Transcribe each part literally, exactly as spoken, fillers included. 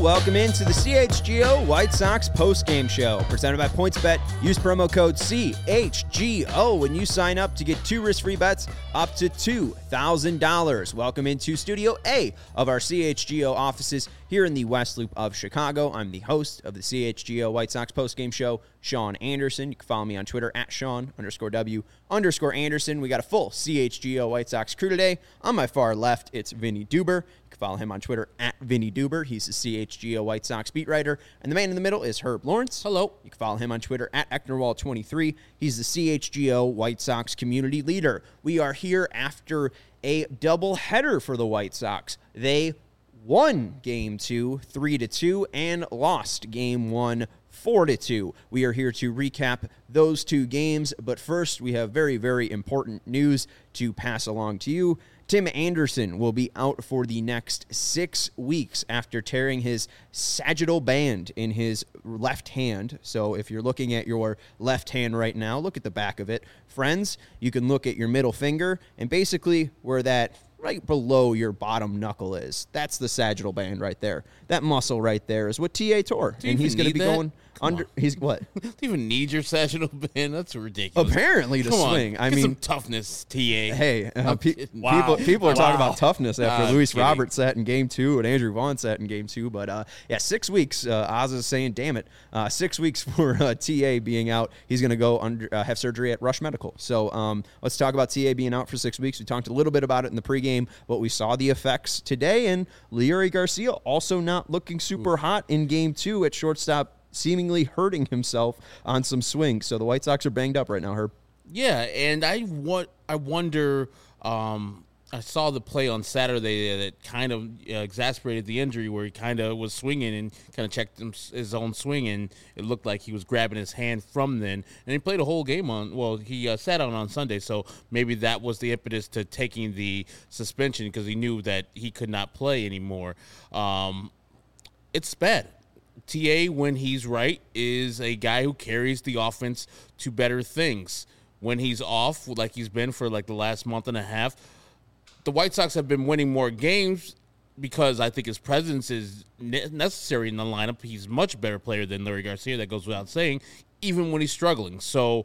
Welcome into the C H G O White Sox postgame show, presented by PointsBet. Use promo code C H G O when you sign up to get two risk-free bets up to two thousand dollars. Welcome into Studio A of our C H G O offices here in the West Loop of Chicago. I'm the host of the C H G O White Sox postgame show, Sean Anderson. You can follow me on Twitter at Sean underscore W underscore Anderson. We got a full C H G O White Sox crew today. On my far left, it's Vinny Duber. You can follow him on Twitter at Vinny Duber. He's the C H G O White Sox beat writer. And the man in the middle is Herb Lawrence. Hello. You can follow him on Twitter at Ecknerwall twenty-three. He's the C H G O White Sox community leader. We are here after a doubleheader for the White Sox. They won game two, three to two, and lost game one, four to two. We are here to recap those two games, but first we have very, very important news to pass along to you. Tim Anderson will be out for the next six weeks after tearing his sagittal band in his left hand. So if you're looking at your left hand right now, look at the back of it. Friends, you can look at your middle finger, and basically where that right below your bottom knuckle is, that's the sagittal band right there. That muscle right there is what T A tore. Do you and he's going to be that? going Come under. on. He's what? Do you even need your sagittal band? That's ridiculous. Apparently to Come swing. On. I Get mean, some toughness, T A. Hey, uh, I'm pe- kidding. Wow. people people are talking Wow. about toughness after Nah, I'm Luis kidding. Roberts sat in game two and Andrew Vaughn sat in game two. But uh, yeah, six weeks. Uh, Oz is saying, "Damn it, uh, six weeks for uh, T A being out. He's going to go under uh, have surgery at Rush Medical." So um, let's talk about T A being out for six weeks. We talked a little bit about it in the pregame, but we saw the effects today. And Leury Garcia also not looking super hot in game two at shortstop, seemingly hurting himself on some swings. So the White Sox are banged up right now, Herb. Yeah, and I want I wonder. Um, I saw the play on Saturday that kind of uh, exasperated the injury, where he kind of was swinging and kind of checked him, his own swing, and it looked like he was grabbing his hand from then. And he played a whole game on. Well, he uh, sat out on Sunday, so maybe that was the impetus to taking the suspension, because he knew that he could not play anymore. Um, it's bad. T A, when he's right, is a guy who carries the offense to better things. When he's off, like he's been for like the last month and a half, the White Sox have been winning more games because I think his presence is ne- necessary in the lineup. He's a much better player than Leury Garcia, that goes without saying, even when he's struggling. So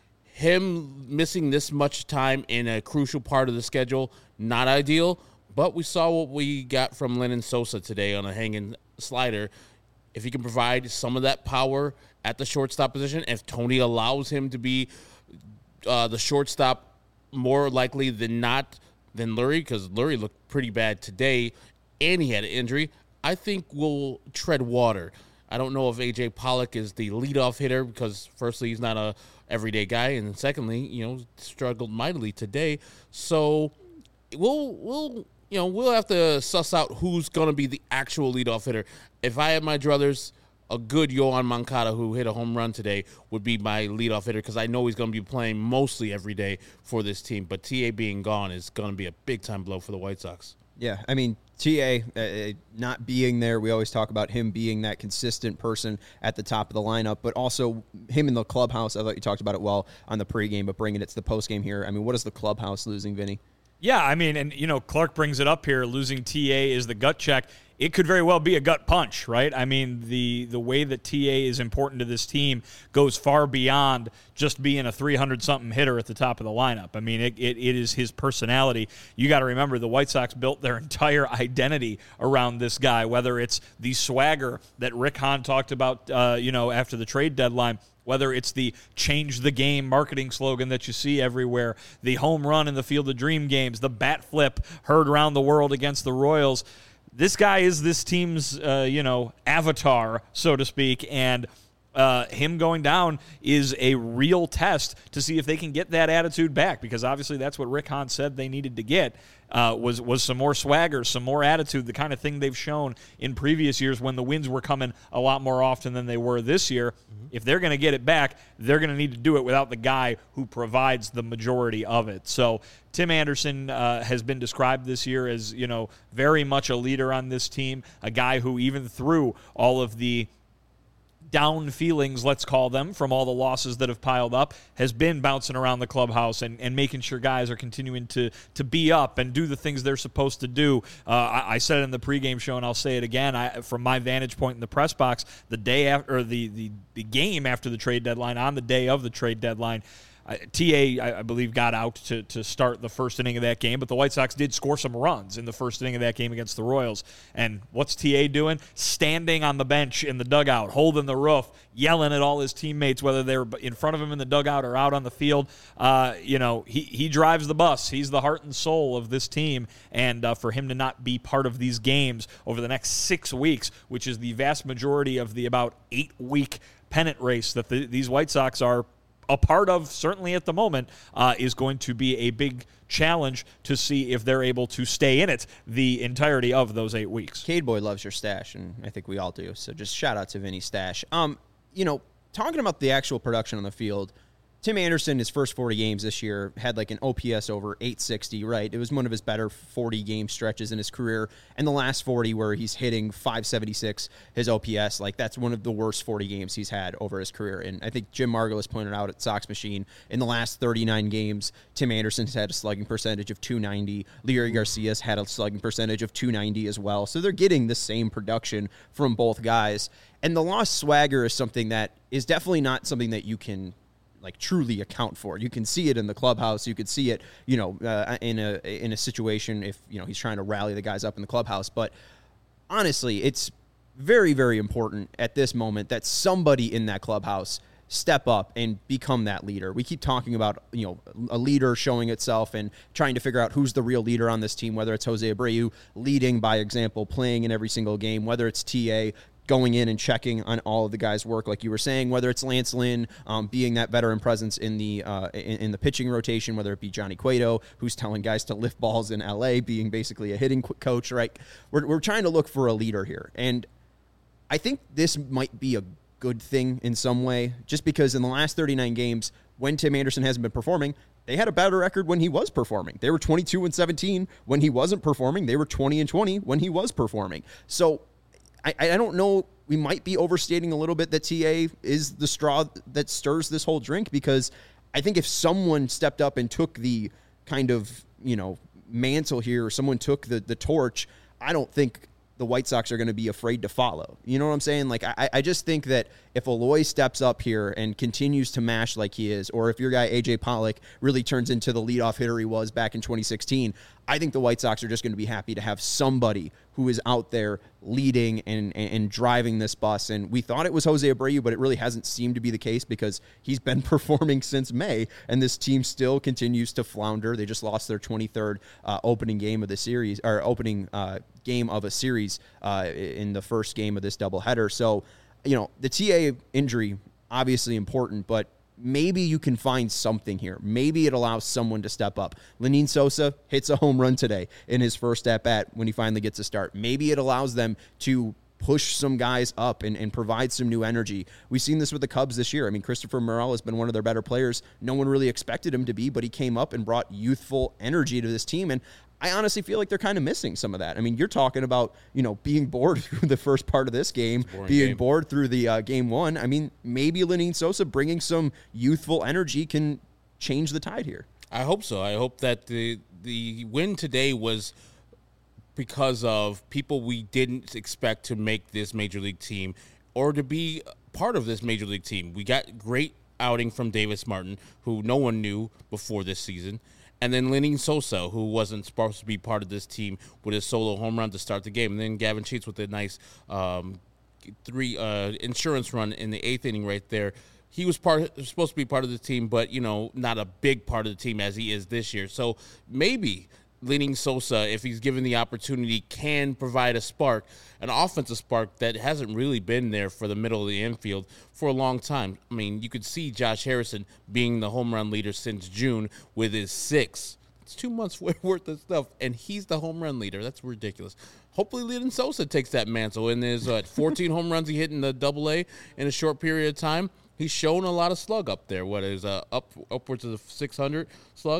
him missing this much time in a crucial part of the schedule, not ideal, but we saw what we got from Lenyn Sosa today on a hanging slider. If he can provide some of that power at the shortstop position, if Tony allows him to be uh, the shortstop more likely than not than Leury, because Leury looked pretty bad today and he had an injury, I think we'll tread water. I don't know if A J Pollock is the leadoff hitter, because firstly, he's not a everyday guy, and secondly, you know, struggled mightily today. So we'll we'll you know we'll have to suss out who's going to be the actual leadoff hitter. If I had my druthers, a good Yohan Moncada, who hit a home run today, would be my leadoff hitter, because I know he's going to be playing mostly every day for this team. But T A being gone is going to be a big-time blow for the White Sox. Yeah, I mean, T A uh, not being there, we always talk about him being that consistent person at the top of the lineup, but also him in the clubhouse. I thought you talked about it well on the pregame, but bringing it to the postgame here. I mean, what is the clubhouse losing, Vinny? Yeah, I mean, and, you know, Clark brings it up here. Losing T A is the gut check. It could very well be a gut punch, right? I mean, the the way that T A is important to this team goes far beyond just being a three hundred something hitter at the top of the lineup. I mean, it, it, it is his personality. You got to remember, the White Sox built their entire identity around this guy, whether it's the swagger that Rick Hahn talked about, uh, you know, after the trade deadline, whether it's the change the game marketing slogan that you see everywhere, the home run in the Field of Dream games, the bat flip heard around the world against the Royals. This guy is this team's, uh, you know, avatar, so to speak, and uh, him going down is a real test to see if they can get that attitude back, because obviously that's what Rick Hahn said they needed to get, uh, was was some more swagger, some more attitude, the kind of thing they've shown in previous years when the wins were coming a lot more often than they were this year. Mm-hmm. If they're going to get it back, they're going to need to do it without the guy who provides the majority of it. So Tim Anderson uh, has been described this year as, you know, very much a leader on this team, a guy who even through all of the down feelings, let's call them, from all the losses that have piled up, has been bouncing around the clubhouse and, and making sure guys are continuing to to be up and do the things they're supposed to do. Uh, I, I said it in the pregame show, and I'll say it again. I, from my vantage point in the press box, the day after, or the, the, the game after the trade deadline, on the day of the trade deadline, Uh, T A, I, I believe, got out to, to start the first inning of that game, but the White Sox did score some runs in the first inning of that game against the Royals. And what's T A doing? Standing on the bench in the dugout, holding the roof, yelling at all his teammates, whether they're in front of him in the dugout or out on the field. Uh, you know, he, he drives the bus. He's the heart and soul of this team. And uh, for him to not be part of these games over the next six weeks, which is the vast majority of the about eight-week pennant race that the, these White Sox are a part of, certainly at the moment, uh, is going to be a big challenge to see if they're able to stay in it the entirety of those eight weeks. Cade Boy loves your stash, and I think we all do. So just shout out to Vinny Stash. Um, you know, talking about the actual production on the field, Tim Anderson, his first forty games this year, had like an O P S over eight sixty, right? It was one of his better forty-game stretches in his career. And the last forty where he's hitting five seventy-six, his O P S, like that's one of the worst forty games he's had over his career. And I think Jim Margulis pointed out at Sox Machine, in the last thirty-nine games, Tim Anderson's had a slugging percentage of two ninety. Leary Garcia's had a slugging percentage of two ninety as well. So they're getting the same production from both guys. And the lost swagger is something that is definitely not something that you can like truly account for. You can see it in the clubhouse. You could see it, you know, uh, in a in a situation if, you know, he's trying to rally the guys up in the clubhouse. But honestly, it's very, very important at this moment that somebody in that clubhouse step up and become that leader. We keep talking about, you know, a leader showing itself and trying to figure out who's the real leader on this team, whether it's Jose Abreu leading by example, playing in every single game, whether it's T A going in and checking on all of the guys' work, like you were saying, whether it's Lance Lynn um, being that veteran presence in the uh, in, in the pitching rotation, whether it be Johnny Cueto, who's telling guys to lift balls in L A, being basically a hitting coach, right? We're, we're trying to look for a leader here. And I think this might be a good thing in some way, just because in the last thirty-nine games, when Tim Anderson hasn't been performing, they had a better record when he was performing. They were twenty-two and seventeen when he wasn't performing. They were twenty and twenty when he was performing. So I, I don't know. We might be overstating a little bit that T A is the straw that stirs this whole drink, because I think if someone stepped up and took the kind of, you know, mantle here, or someone took the, the torch, I don't think the White Sox are going to be afraid to follow. You know what I'm saying? Like, I, I just think that if Eloy steps up here and continues to mash like he is, or if your guy A J Pollock really turns into the leadoff hitter he was back in twenty sixteen, I think the White Sox are just going to be happy to have somebody who is out there leading and, and, and driving this bus. And we thought it was Jose Abreu, but it really hasn't seemed to be the case, because he's been performing since May, and this team still continues to flounder. They just lost their twenty-third uh, opening game of the series, or opening uh, game of a series uh, in the first game of this doubleheader. So, you know, the T A injury, obviously important, but maybe you can find something here. Maybe it allows someone to step up. Lenyn Sosa hits a home run today in his first at-bat when he finally gets a start. Maybe it allows them to push some guys up and, and provide some new energy. We've seen this with the Cubs this year. I mean, Christopher Morel has been one of their better players. No one really expected him to be, but he came up and brought youthful energy to this team, and I honestly feel like they're kind of missing some of that. I mean, you're talking about, you know, being bored through the first part of this game, being game. bored through the uh, game one. I mean, maybe Lenyn Sosa bringing some youthful energy can change the tide here. I hope so. I hope that the the win today was because of people we didn't expect to make this Major League team or to be part of this Major League team. We got great outing from Davis Martin, who no one knew before this season. And then Lenyn Sosa, who wasn't supposed to be part of this team, with his solo home run to start the game. And then Gavin Sheets with a nice um, three uh, insurance run in the eighth inning right there. He was part supposed to be part of the team, but, you know, not a big part of the team as he is this year. So maybe Lenyn Sosa, if he's given the opportunity, can provide a spark, an offensive spark that hasn't really been there for the middle of the infield for a long time. I mean, you could see Josh Harrison being the home run leader since June with his six. It's two months worth of stuff, and he's the home run leader. That's ridiculous. Hopefully, Lenyn Sosa takes that mantle. In his uh, fourteen home runs he hit in the Double A in a short period of time, he's shown a lot of slug up there. What is uh, up upwards of the six hundred slug?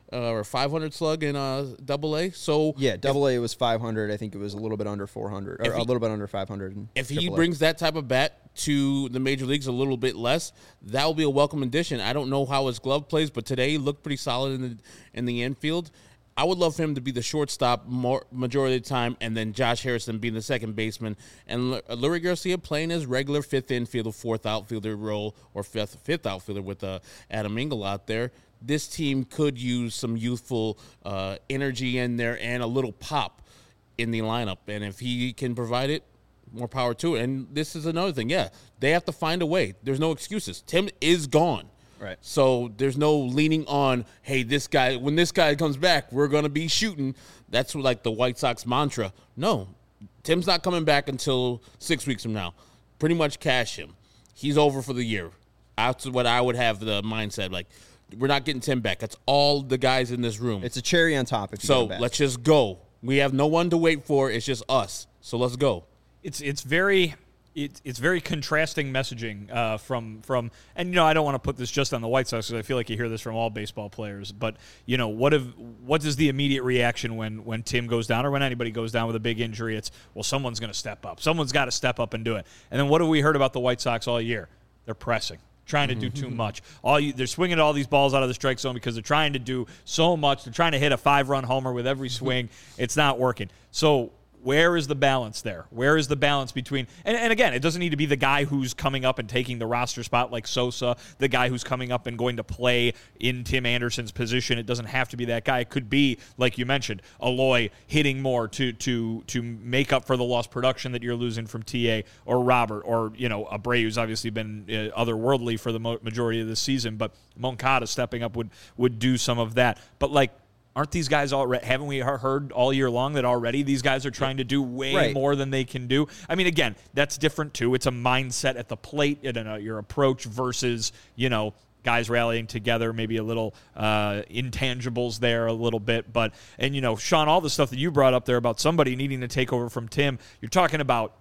uh, or five hundred slug in uh, Double A. So yeah, Double A was five hundred. I think it was a little bit under four hundred, or he, a little bit under five hundred. If he Triple A. brings that type of bat to the major leagues a little bit less, that will be a welcome addition. I don't know how his glove plays, but today he looked pretty solid in the in the infield. I would love for him to be the shortstop more majority of the time, and then Josh Harrison being the second baseman, and L- Lurie Garcia playing his regular fifth infielder, fourth outfielder role, or fifth fifth outfielder with uh, Adam Engel out there. This team could use some youthful uh, energy in there and a little pop in the lineup, and if he can provide it, more power to it. And this is another thing. Yeah, they have to find a way. There's no excuses. Tim is gone. Right. So there's no leaning on, hey, this guy, when this guy comes back, we're going to be shooting. That's like the White Sox mantra. No, Tim's not coming back until six weeks from now. Pretty much cash him. He's over for the year. That's what I would have the mindset. Like, we're not getting Tim back. That's all the guys in this room. It's a cherry on top if you So get back. let's just go. We have no one to wait for. It's just us. So let's go. It's it's very it's it's very contrasting messaging uh, from from and you know I don't want to put this just on the White Sox because I feel like you hear this from all baseball players, but you know what if what is the immediate reaction when when Tim goes down or when anybody goes down with a big injury? It's, well, someone's going to step up, someone's got to step up and do it. And then what have we heard about the White Sox all year? They're pressing, trying to do too much. All you, they're swinging all these balls out of the strike zone because they're trying to do so much. They're trying to hit a five-run homer with every swing. It's not working. So where is the balance there? Where is the balance between and, – and again, it doesn't need to be the guy who's coming up and taking the roster spot like Sosa, the guy who's coming up and going to play in Tim Anderson's position. It doesn't have to be that guy. It could be, like you mentioned, Eloy hitting more to to to make up for the lost production that you're losing from T A, or Robert, or, you know, Abreu's obviously been uh, otherworldly for the mo- majority of the season, but Moncada stepping up would would do some of that. But, like, aren't these guys already, haven't we heard all year long that already these guys are trying to do way right. more than they can do? I mean, again, that's different too. It's a mindset at the plate and uh, your approach versus, you know, guys rallying together, maybe a little uh, intangibles there a little bit. But, and, you know, Sean, all the stuff that you brought up there about somebody needing to take over from Tim, you're talking about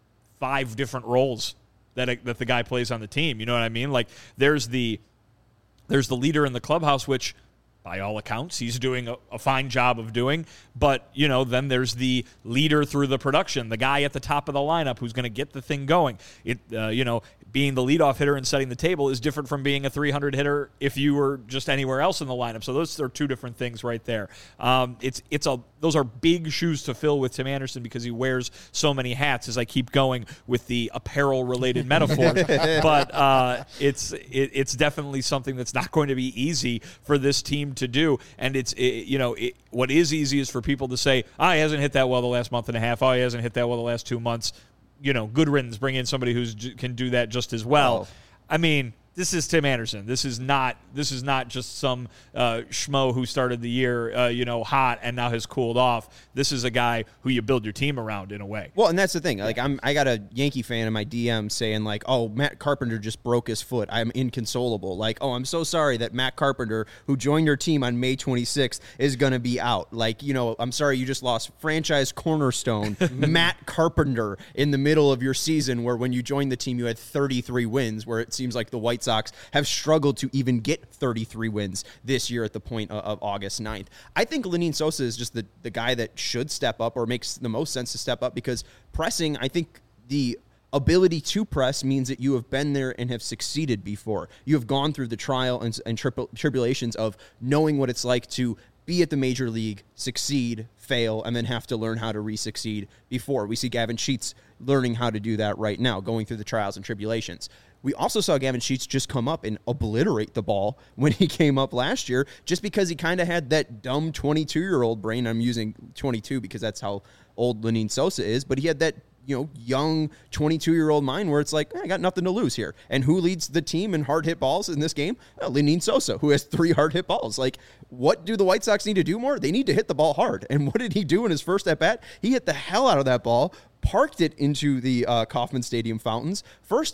five different roles that, that the guy plays on the team. You know what I mean? Like, there's the, there's the leader in the clubhouse, which, by all accounts, he's doing a, a fine job of doing. But, you know, then there's the leader through the production, the guy at the top of the lineup who's going to get the thing going. It, uh, you know, being the leadoff hitter and setting the table is different from being a three hundred hitter if you were just anywhere else in the lineup. So those are two different things right there. Um, it's it's a those are big shoes to fill with Tim Anderson because he wears so many hats. As I keep going with the apparel-related metaphor, but uh, it's it, it's definitely something that's not going to be easy for this team to do. And it's it, you know it, what is easy is for people to say, "Ah, oh, he hasn't hit that well the last month and a half. Oh, he hasn't hit that well the last two months." You know, good riddance. Bring in somebody who can do that just as well. Oh. I mean, this is Tim Anderson. This is not. This is not just some uh, schmo who started the year, uh, you know, hot and now has cooled off. This is a guy who you build your team around in a way. Well, and that's the thing. Like, I'm, I got a Yankee fan in my D M saying like, "Oh, Matt Carpenter just broke his foot. I'm inconsolable." Like, "Oh, I'm so sorry that Matt Carpenter, who joined your team on May twenty-sixth, is going to be out." Like, you know, I'm sorry you just lost franchise cornerstone Matt Carpenter in the middle of your season, where when you joined the team you had thirty-three wins, where it seems like the White Sox have struggled to even get thirty-three wins this year at the point of, of August ninth. I think Lenyn Sosa is just the, the guy that should step up, or makes the most sense to step up, because pressing, I think the ability to press means that you have been there and have succeeded before. You have gone through the trial and, and tripl- tribulations of knowing what it's like to be at the major league, succeed, fail, and then have to learn how to re-succeed before. We see Gavin Sheets learning how to do that right now, going through the trials and tribulations. We also saw Gavin Sheets just come up and obliterate the ball when he came up last year, just because he kind of had that dumb twenty-two-year-old brain. I'm using twenty-two because that's how old Lenyn Sosa is, but he had that, you know, young twenty-two-year-old mind where it's like, eh, I got nothing to lose here. And who leads the team in hard hit balls in this game? Well, Lenyn Sosa, who has three hard hit balls. Like, what do the White Sox need to do more? They need to hit the ball hard. And what did he do in his first at bat? He hit the hell out of that ball, parked it into the uh, Kauffman Stadium fountains. First off,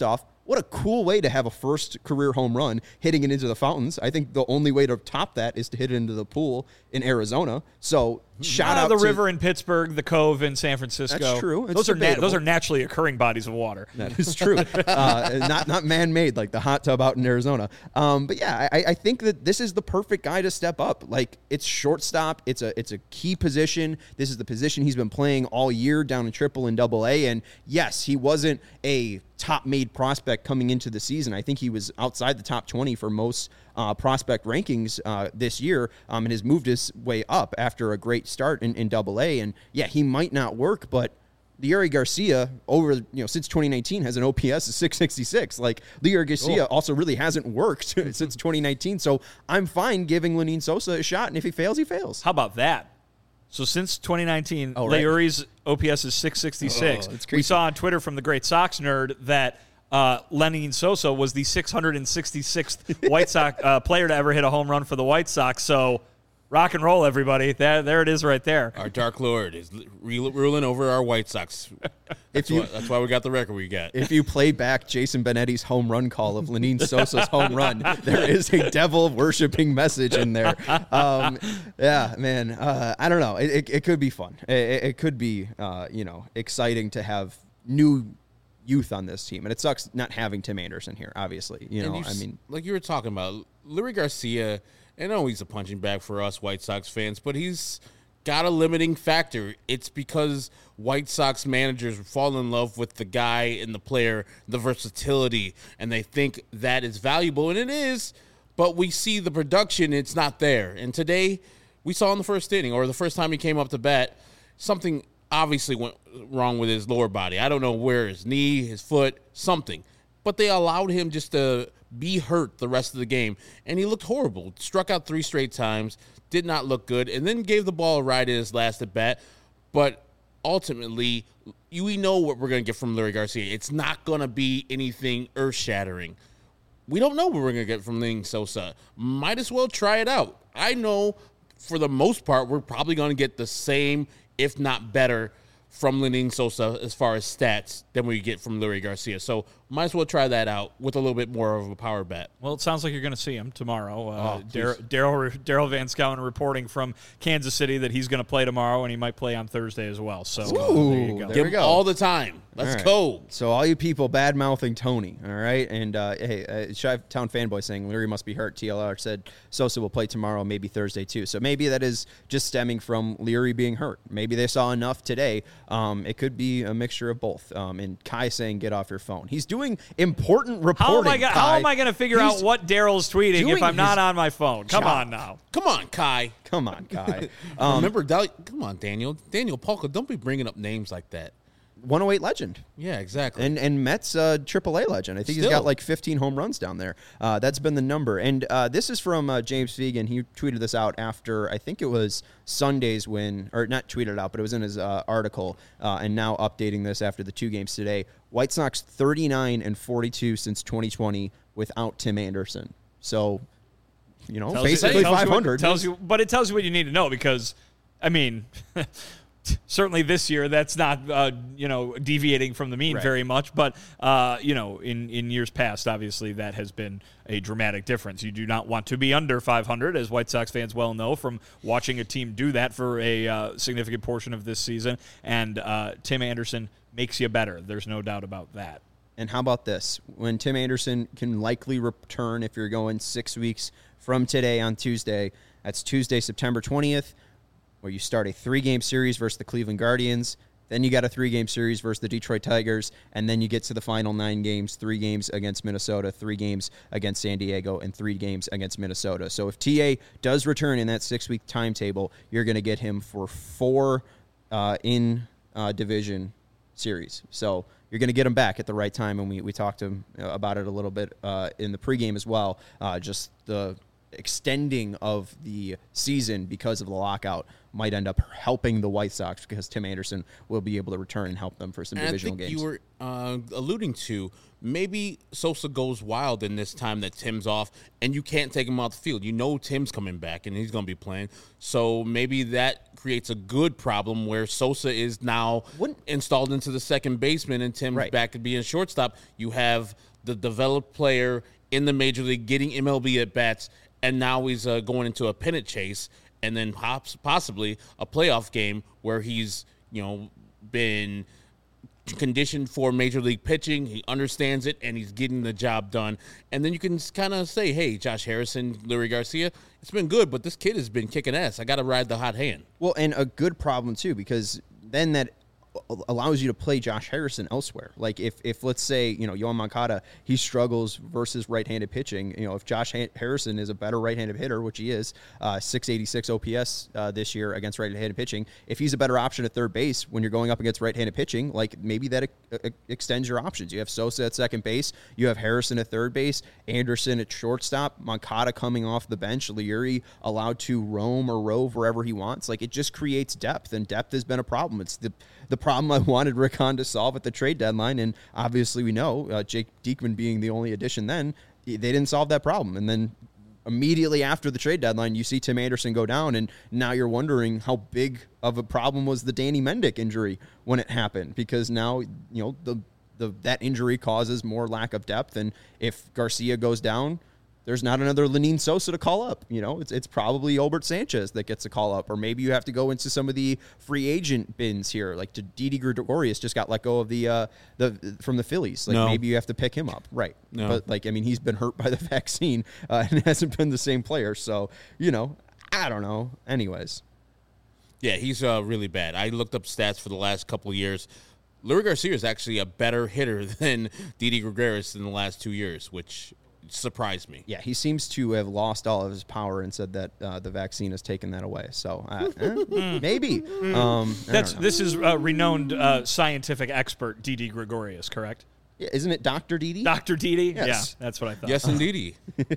what a cool way to have a first career home run hitting it into the fountains. I think the only way to top that is to hit it into the pool in Arizona. So shout uh, out the to river in Pittsburgh, the cove in San Francisco. That's true. It's those are na- those debatable. are naturally occurring bodies of water. That is true. uh, not not man-made like the hot tub out in Arizona. Um, but yeah, I, I think that this is the perfect guy to step up. Like, it's shortstop. It's a it's a key position. This is the position he's been playing all year down in Triple and Double A. And yes, he wasn't a top-made prospect coming into the season. I think he was outside the top twenty for most uh, prospect rankings uh, this year, um, and has moved his way up after a great start in, in Double A. And yeah, he might not work, but Leury Garcia over, you know, since twenty nineteen has an O P S of six sixty-six. Like, Leury Garcia Oh. also really hasn't worked since twenty nineteen. So I'm fine giving Lenyn Sosa a shot, and if he fails, he fails. How about that? So since twenty nineteen, Oh, right. Leury's O P S is six sixty-six. Oh, that's we creepy. saw on Twitter from the great Sox nerd that uh, Lenyn Sosa was the six hundred sixty-sixth White Sox uh, player to ever hit a home run for the White Sox. So rock and roll, everybody. There, there it is right there. Our Dark Lord is re- ruling over our White Sox. That's, you- why, that's why we got the record we got. If you play back Jason Benetti's home run call of Lenyn Sosa's home run, there is a devil worshiping message in there. Um, yeah, man. Uh, I don't know. It, it, it could be fun. It, it it could be, uh, you know, exciting to have new youth on this team. And it sucks not having Tim Anderson here, obviously. You And know, you I s- mean, like you were talking about, Leury Garcia, I know he's a punching bag for us White Sox fans, but he's got a limiting factor. It's because White Sox managers fall in love with the guy and the player, the versatility, and they think that is valuable, and it is, but we see the production, it's not there. And today, we saw in the first inning, or the first time he came up to bat, something obviously went wrong with his lower body. I don't know where, his knee, his foot, something. But they allowed him just to be hurt the rest of the game. And he looked horrible. Struck out three straight times, did not look good, and then gave the ball a ride in his last at bat. But ultimately, you, we know what we're going to get from Leury Garcia. It's not going to be anything earth-shattering. We don't know what we're going to get from Lenyn Sosa. Might as well try it out. I know for the most part, we're probably going to get the same, if not better, from Lenyn Sosa as far as stats than we get from Leury Garcia. So might as well try that out with a little bit more of a power bet. Well, it sounds like you're going to see him tomorrow. Uh, Oh, Dar- Daryl Daryl Van Scouten reporting from Kansas City that he's going to play tomorrow, and he might play on Thursday as well. So uh, Ooh, there you go. there Give we him go. all the time. Let's All right. go. So all you people bad mouthing Tony, all right, and uh, hey, uh, Chi-Town fanboy saying Leury must be hurt. T L R said Sosa will play tomorrow, maybe Thursday too. So maybe that is just stemming from Leury being hurt. Maybe they saw enough today. Um, it could be a mixture of both. Um, and Kai saying get off your phone. He's doing important reporting. How am I, go- how Kai. am I going to figure He's out what Daryl's tweeting if doing I'm not his on my phone? Come job. on now. Come on, Kai. Come on, Kai. Um, Remember, Dal- come on, Daniel. Daniel Polka, don't be bringing up names like that. one oh eight legend. Yeah, exactly. And and Mets uh, triple A legend. I think he's got Still. like fifteen home runs down there. Uh, that's been the number. And uh, this is from uh, James Fegan. He tweeted this out after, I think it was Sunday's win, or not tweeted out, but it was in his uh, article, uh, and now updating this after the two games today. White Sox thirty-nine and forty-two since twenty twenty without Tim Anderson. So, you know, Tells you- basically tells you what- five hundred. tells you, but it tells you what you need to know because, I mean, certainly this year that's not uh, you know deviating from the mean Right. very much. But uh, you know, in in years past, obviously that has been a dramatic difference. You do not want to be under five hundred, as White Sox fans well know from watching a team do that for a uh, significant portion of this season. And uh, Tim Anderson makes you better. There's no doubt about that. And how about this? When Tim Anderson can likely return, if you're going six weeks from today on Tuesday, that's Tuesday, September twentieth, where you start a three-game series versus the Cleveland Guardians. Then you got a three-game series versus the Detroit Tigers, and then you get to the final nine games, three games against Minnesota, three games against San Diego, and three games against Minnesota. So if T A does return in that six-week timetable, you're going to get him for four uh, in-division series. So you're going to get him back at the right time, and we, we talked to him about it a little bit uh, in the pregame as well. Uh, just the extending of the season because of the lockout might end up helping the White Sox because Tim Anderson will be able to return and help them for some and divisional I think games. You were uh, alluding to maybe Sosa goes wild in this time that Tim's off, and you can't take him off the field. You know Tim's coming back, and he's going to be playing. So maybe that creates a good problem where Sosa is now Wouldn't- installed into the second baseman, and Tim's Right. back to being shortstop. You have the developed player in the major league getting M L B at bats, and now he's uh, going into a pennant chase, and then pops, possibly a playoff game where he's, you know, been conditioned for major league pitching. He understands it, and he's getting the job done. And then you can kind of say, hey, Josh Harrison, Leury Garcia, it's been good, but this kid has been kicking ass. I got to ride the hot hand. Well, and a good problem, too, because then that allows you to play Josh Harrison elsewhere. Like if, if let's say, you know, Yoan Moncada, he struggles versus right-handed pitching. You know, if Josh Harrison is a better right-handed hitter, which he is, uh, six eighty-six O P S uh, this year against right-handed pitching, if he's a better option at third base when you're going up against right-handed pitching, like maybe that uh, extends your options. You have Sosa at second base, you have Harrison at third base, Anderson at shortstop, Moncada coming off the bench, Leury allowed to roam or rove wherever he wants. Like it just creates depth, and depth has been a problem. It's the the problem I wanted Rick Hahn to solve at the trade deadline, and obviously we know uh, Jake Diekman being the only addition then, they didn't solve that problem. And then immediately after the trade deadline, you see Tim Anderson go down, and now you're wondering how big of a problem was the Danny Mendick injury when it happened, because now, you know, the, the that injury causes more lack of depth, and if Garcia goes down, there's not another Lenyn Sosa to call up. You know, it's it's probably Albert Sanchez that gets a call up, or maybe you have to go into some of the free agent bins here. Like Didi Gregorius just got let go of the uh, the from the Phillies. Like No. maybe you have to pick him up, right? No. But like I mean, he's been hurt by the vaccine uh, and hasn't been the same player. So you know, I don't know. Anyways, Yeah, he's uh, really bad. I looked up stats for the last couple of years. Leury Garcia is actually a better hitter than Didi Gregorius in the last two years, which surprised me. yeah, he seems to have lost all of his power and said that uh, the vaccine has taken that away. So uh, eh, maybe um, I That's don't know. this is uh, renowned uh, scientific expert Didi Gregorius, correct? Yeah, isn't it Doctor Didi? Doctor Didi? Yes. Yeah, that's what I thought. Yes, indeed.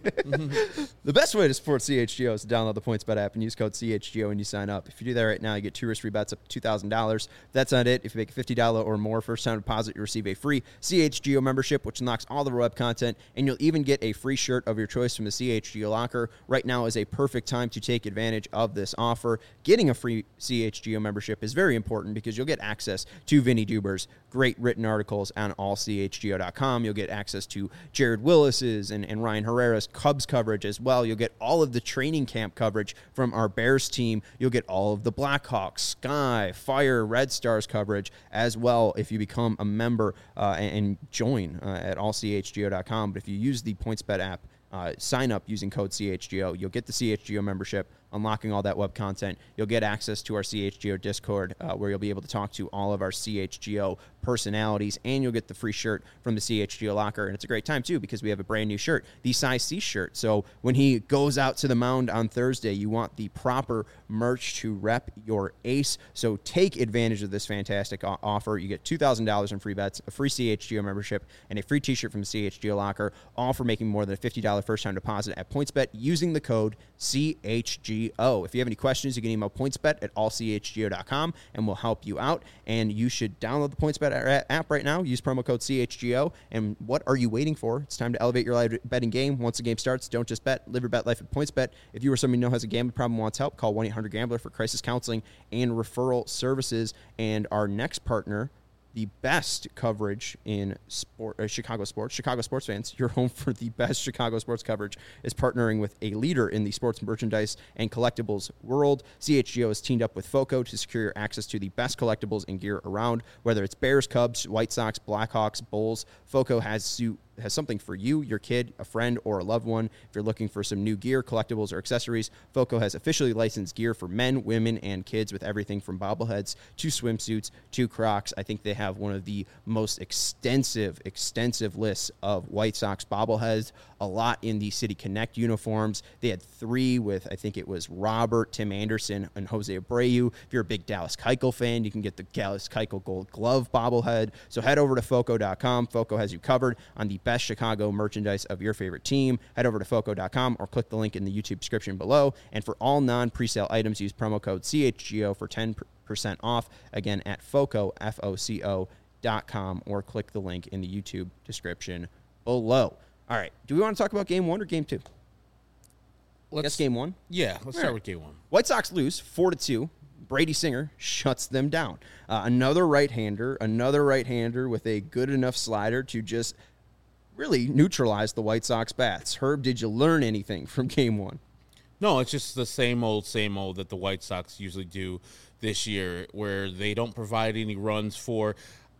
The best way to support C H G O is to download the PointsBet app and use code C H G O when you sign up. If you do that right now, you get two risk-free bets up to two thousand dollars. That's not it. If you make a fifty dollars or more first-time deposit, you receive a free C H G O membership, which unlocks all the web content, and you'll even get a free shirt of your choice from the C H G O locker. Right now is a perfect time to take advantage of this offer. Getting a free C H G O membership is very important because you'll get access to Vinny Duber's great written articles on all C H G O dot com. You'll get access to Jared Willis's and, and Ryan Herrera's Cubs coverage as well. You'll get all of the training camp coverage from our Bears team. You'll get all of the Blackhawks, Sky, Fire, Red Stars coverage as well if you become a member uh, and, and join uh, at all C H G O dot com. But if you use the PointsBet app, uh, sign up using code C H G O, you'll get the C H G O membership, unlocking all that web content. You'll get access to our C H G O Discord, uh, where you'll be able to talk to all of our C H G O personalities, and you'll get the free shirt from the C H G O locker. And it's a great time, too, because we have a brand new shirt, the size C shirt. So when he goes out to the mound on Thursday, you want the proper merch to rep your ace. So take advantage of this fantastic o- offer. You get two thousand dollars in free bets, a free C H G O membership, and a free t-shirt from the C H G O locker, all for making more than a fifty dollars first-time deposit at PointsBet using the code C H G O. If you have any questions, you can email PointsBet at all C H G O dot com, and we'll help you out. And you should download the PointsBet app right now. Use promo code C H G O. And what are you waiting for? It's time to elevate your live betting game. Once the game starts, don't just bet. Live your bet life at PointsBet. If you or someone you know has a gambling problem and wants help, call one eight hundred gambler for crisis counseling and referral services. And our next partner, the best coverage in sport, uh, Chicago sports. Chicago sports fans, your home for the best Chicago sports coverage, is partnering with a leader in the sports merchandise and collectibles world. C H G O has teamed up with FOCO to secure your access to the best collectibles and gear around. Whether it's Bears, Cubs, White Sox, Blackhawks, Bulls, FOCO has you has something for you, your kid, a friend, or a loved one. If you're looking for some new gear, collectibles, or accessories, FOCO has officially licensed gear for men, women, and kids with everything from bobbleheads to swimsuits to Crocs. I think they have one of the most extensive, extensive lists of White Sox bobbleheads, a lot in the City Connect uniforms. They had three with, I think it was Robert, Tim Anderson, and Jose Abreu. If you're a big Dallas Keuchel fan, you can get the Dallas Keuchel Gold Glove bobblehead. So head over to FOCO dot com. FOCO has you covered on the best Chicago merchandise of your favorite team. Head over to foco dot com or click the link in the YouTube description below. And for all non-presale items, use promo code C H G O for ten percent off. Again, at Foco, F O C O dot com, or click the link in the YouTube description below. All right. Do we want to talk about game one or game two? Let's, Guess game one? Yeah, let's start with game one. White Sox lose four to two. Brady Singer shuts them down. Uh, another right-hander, another right-hander with a good enough slider to just really neutralize the White Sox bats. Herb, did you learn anything from game one? No, it's just the same old, same old that the White Sox usually do this year, where they don't provide any runs for.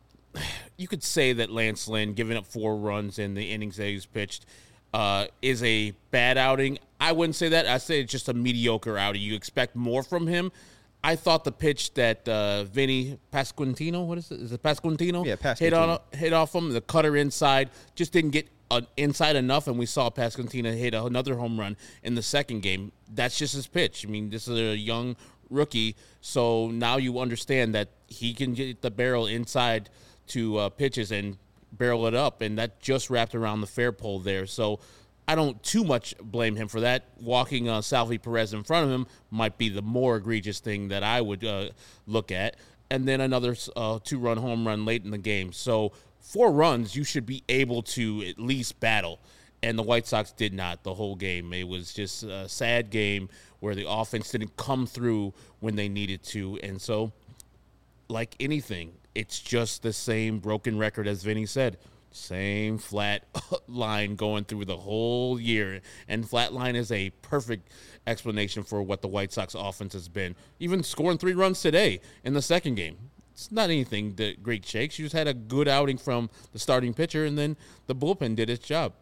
You could say that Lance Lynn giving up four runs in the innings that he's pitched uh, is a bad outing. I wouldn't say that. I'd say it's just a mediocre outing. You expect more from him. I thought the pitch that uh, Vinny Pasquantino, what is it? Is it Pasquantino? Yeah, Pasquantino. Hit, on, hit off him, the cutter inside, just didn't get uh, inside enough, and we saw Pasquantino hit another home run in the second game. That's just his pitch. I mean, this is a young rookie, so now you understand that he can get the barrel inside to uh, pitches and barrel it up, and that just wrapped around the fair pole there. So I don't too much blame him for that. Walking uh, Salvi Perez in front of him might be the more egregious thing that I would uh, look at. And then another uh, two-run home run late in the game. So four runs, you should be able to at least battle. And the White Sox did not the whole game. It was just a sad game where the offense didn't come through when they needed to. And so, like anything, it's just the same broken record as Vinny said. Same flat line going through the whole year. And flat line is a perfect explanation for what the White Sox offense has been. Even scoring three runs today in the second game. It's not anything that great shakes. You just had a good outing from the starting pitcher, and then the bullpen did its job.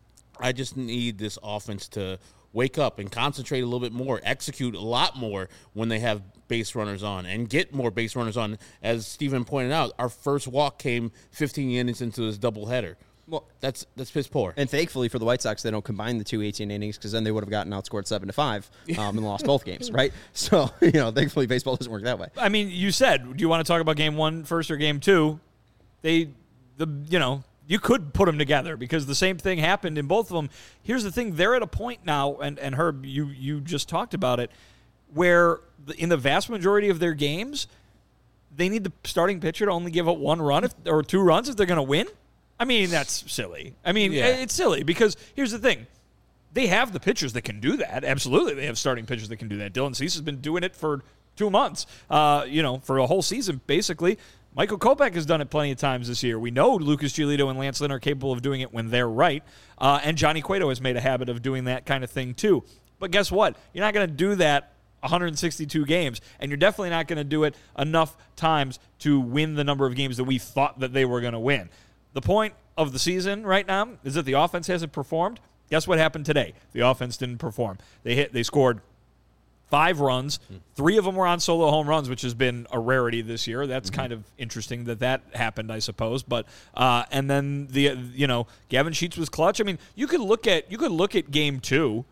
I just need this offense to wake up and concentrate a little bit more, execute a lot more when they have base runners on, and get more base runners on. As Steven pointed out, our first walk came fifteen innings into this doubleheader. Well, that's that's piss poor. And thankfully for the White Sox, they don't combine the two eighteen innings, because then they would have gotten outscored seven to five um, and lost both games, right? So, you know, thankfully baseball doesn't work that way. I mean, you said, do you want to talk about game one first or game two? They, the you know, you could put them together because the same thing happened in both of them. Here's the thing. They're at a point now, and, and Herb, you, you just talked about it, where in the vast majority of their games, they need the starting pitcher to only give up one run if, or two runs if they're going to win. I mean, that's silly. I mean, yeah. It's silly because here's the thing. They have the pitchers that can do that. Absolutely, they have starting pitchers that can do that. Dylan Cease has been doing it for two months, uh, you know, for a whole season, basically. Michael Kopech has done it plenty of times this year. We know Lucas Giolito and Lance Lynn are capable of doing it when they're right, uh, and Johnny Cueto has made a habit of doing that kind of thing too. But guess what? You're not going to do that one hundred sixty-two games, and you're definitely not going to do it enough times to win the number of games that we thought that they were going to win. The point of the season right now is that the offense hasn't performed. Guess what happened today? The offense didn't perform. They hit. They scored five runs. Three of them were on solo home runs, which has been a rarity this year. That's mm-hmm. kind of interesting that that happened, I suppose. But uh, and then the you know Gavin Sheets was clutch. I mean, you could look at you could look at game two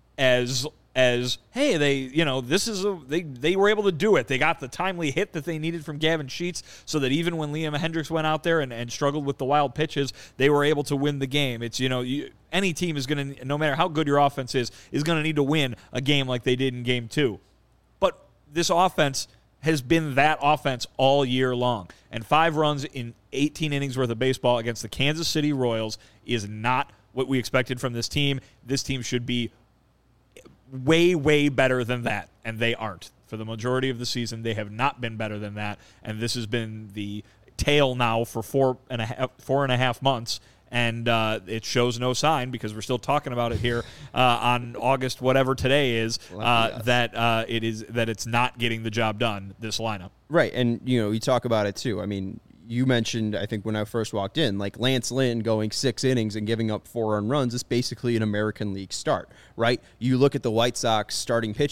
as as hey, they you know this is a they they were able to do it. They got the timely hit that they needed from Gavin Sheets, so that even when Liam Hendricks went out there and, and struggled with the wild pitches, they were able to win the game. It's you know you, any team is going to, no matter how good your offense is, is going to need to win a game like they did in game two. But this offense has been that offense all year long, and five runs in eighteen innings worth of baseball against the Kansas City Royals is not what we expected from this team. This team should be way, way better than that, and they aren't. For the majority of the season, they have not been better than that, and this has been the tale now for four and a half, four and a half months, and uh, it shows no sign, because we're still talking about it here uh, on August whatever today is, uh, that uh, it is that it's not getting the job done, this lineup. Right, and you know, you talk about it too. I mean, you mentioned, I think when I first walked in, like Lance Lynn going six innings and giving up four earned runs is basically an American League start, right? You look at the White Sox starting pitching,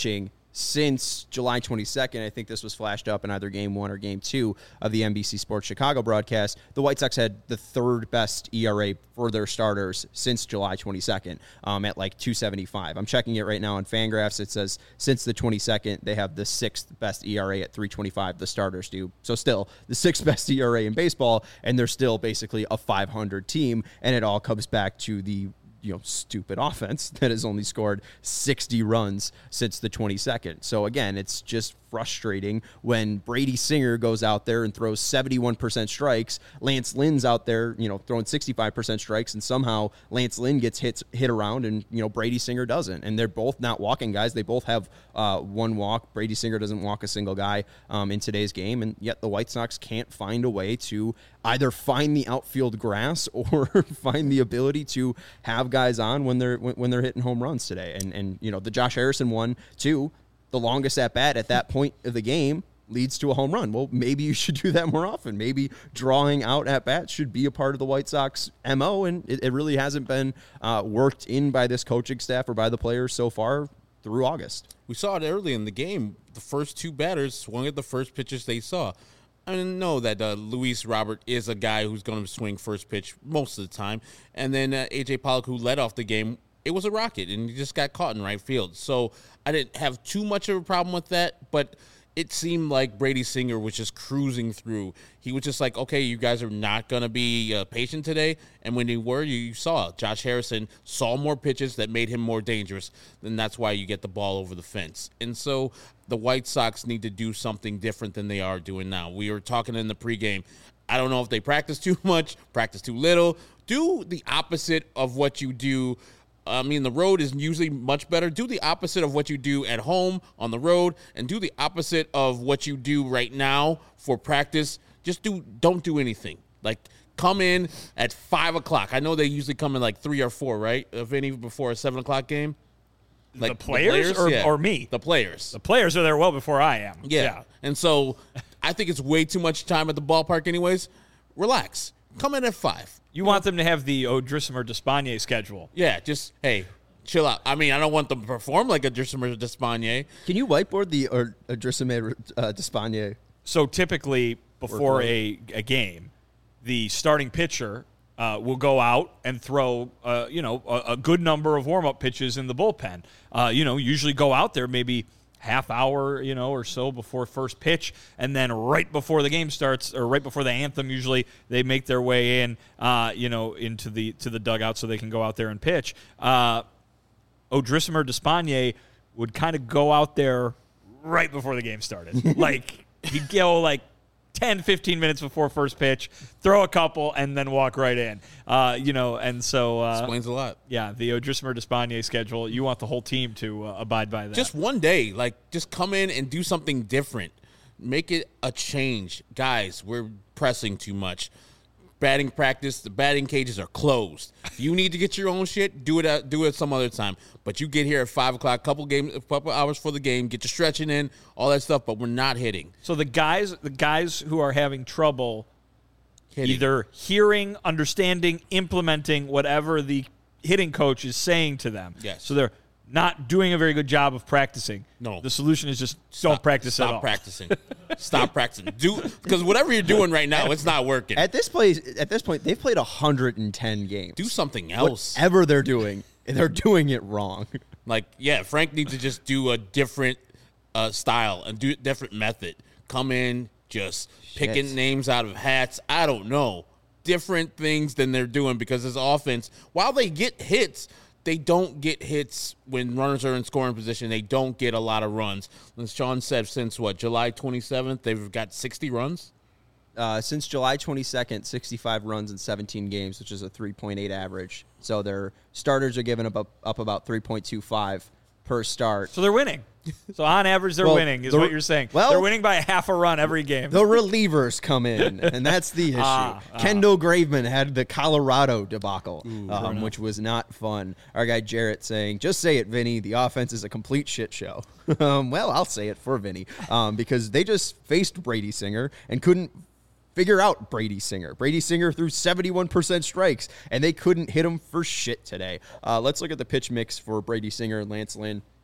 since July twenty-second. I think this was flashed up in either game one or game two of the N B C Sports Chicago broadcast. The White Sox had the third best E R A for their starters since July twenty-second um, at like two seventy-five. I'm checking it right now on Fangraphs. It says since the twenty-second, they have the sixth best E R A at three twenty-five. The starters do. So still the sixth best E R A in baseball, and they're still basically a five hundred team, and it all comes back to the you know, stupid offense that has only scored sixty runs since the twenty-second. So again, it's just frustrating when Brady Singer goes out there and throws seventy-one percent strikes. Lance Lynn's out there, you know, throwing sixty-five percent strikes, and somehow Lance Lynn gets hits hit around, and you know Brady Singer doesn't. And they're both not walking guys. They both have uh, one walk. Brady Singer doesn't walk a single guy um, in today's game, and yet the White Sox can't find a way to either find the outfield grass or find the ability to have guys on when they're when, when they're hitting home runs today. And and you know the Josh Harrison one too. The longest at bat at that point of the game leads to a home run. Well, maybe you should do that more often. Maybe drawing out at bats should be a part of the White Sox M O, and it, it really hasn't been uh, worked in by this coaching staff or by the players so far through August. We saw it early in the game. The first two batters swung at the first pitches they saw. I know that uh, Luis Robert is a guy who's going to swing first pitch most of the time. And then uh, A J Pollock, who led off the game, it was a rocket, and he just got caught in right field. So I didn't have too much of a problem with that, but it seemed like Brady Singer was just cruising through. He was just like, okay, you guys are not going to be uh, patient today. And when they were, you, you saw Josh Harrison saw more pitches that made him more dangerous. Then that's why you get the ball over the fence. And so the White Sox need to do something different than they are doing now. We were talking in the pregame. I don't know if they practice too much, practice too little. Do the opposite of what you do. I mean, the road is usually much better. Do the opposite of what you do at home on the road, and do the opposite of what you do right now for practice. Just do, don't do anything. Like, come in at five o'clock. I know they usually come in like three or four, right? If any before a seven o'clock game. Like the players, the players? Or, yeah. or me? The players. The players are there well before I am. Yeah. yeah. And so I think it's way too much time at the ballpark anyways. Relax. Come in at five. You want them to have the O'Drismer Despaigne schedule. Yeah, just, hey, chill out. I mean, I don't want them to perform like a Drismer Despaigne. Can you whiteboard the or Drismer uh, Despaigne? So typically before a, a game, the starting pitcher uh, will go out and throw, uh, you know, a, a good number of warm-up pitches in the bullpen. Uh, you know, usually go out there maybe half hour, you know, or so before first pitch, and then right before the game starts, or right before the anthem, usually they make their way in, uh, you know, into the to the dugout so they can go out there and pitch. Uh, O'Drismer Despaigne would kind of go out there right before the game started. Like, he'd go like ten, fifteen minutes before first pitch, throw a couple, and then walk right in. Uh, you know, and so uh, explains a lot. Yeah, the O'Drismer Despaigne schedule. You want the whole team to uh, abide by that. Just one day, like, just come in and do something different. Make it a change, guys. We're pressing too much. Batting practice, the batting cages are closed. If you need to get your own shit, do it. At, do it some other time. But you get here at five o'clock, couple game, couple hours for the game, get your stretching in, all that stuff. But we're not hitting. So the guys, the guys who are having trouble hitting. Either hearing, understanding, implementing whatever the hitting coach is saying to them. Yes. So they're not doing a very good job of practicing. No. The solution is just Stop, don't practice stop at all. Practicing. Stop practicing. Do because whatever you're doing right now, it's not working. At this place, at this point, they've played one hundred ten games. Do something else. Whatever they're doing, they're doing it wrong. Like, yeah, Frank needs to just do a different uh, style and do a different method. Come in, just Shit. picking names out of hats. I don't know. Different things than they're doing because his offense, while they get hits, they don't get hits when runners are in scoring position. They don't get a lot of runs. As Sean said, since what, July twenty-seventh, they've got sixty runs? Uh, since July twenty-second, sixty-five runs in seventeen games, which is a three point eight average. So their starters are giving up, up, up about three point two five per start. So they're winning. So on average, they're well, winning, is the, what you're saying. Well, they're winning by a half a run every game. The relievers come in, and that's the issue. Ah, ah. Kendall Graveman had the Colorado debacle, Ooh, um, which was not fun. Our guy Jarrett saying, just say it, Vinny, the offense is a complete shit show. um, well, I'll say it for Vinny, um, because they just faced Brady Singer and couldn't figure out Brady Singer. Brady Singer threw seventy-one percent strikes, and they couldn't hit him for shit today. Uh, let's look at the pitch mix for Brady Singer and Lance Lynn.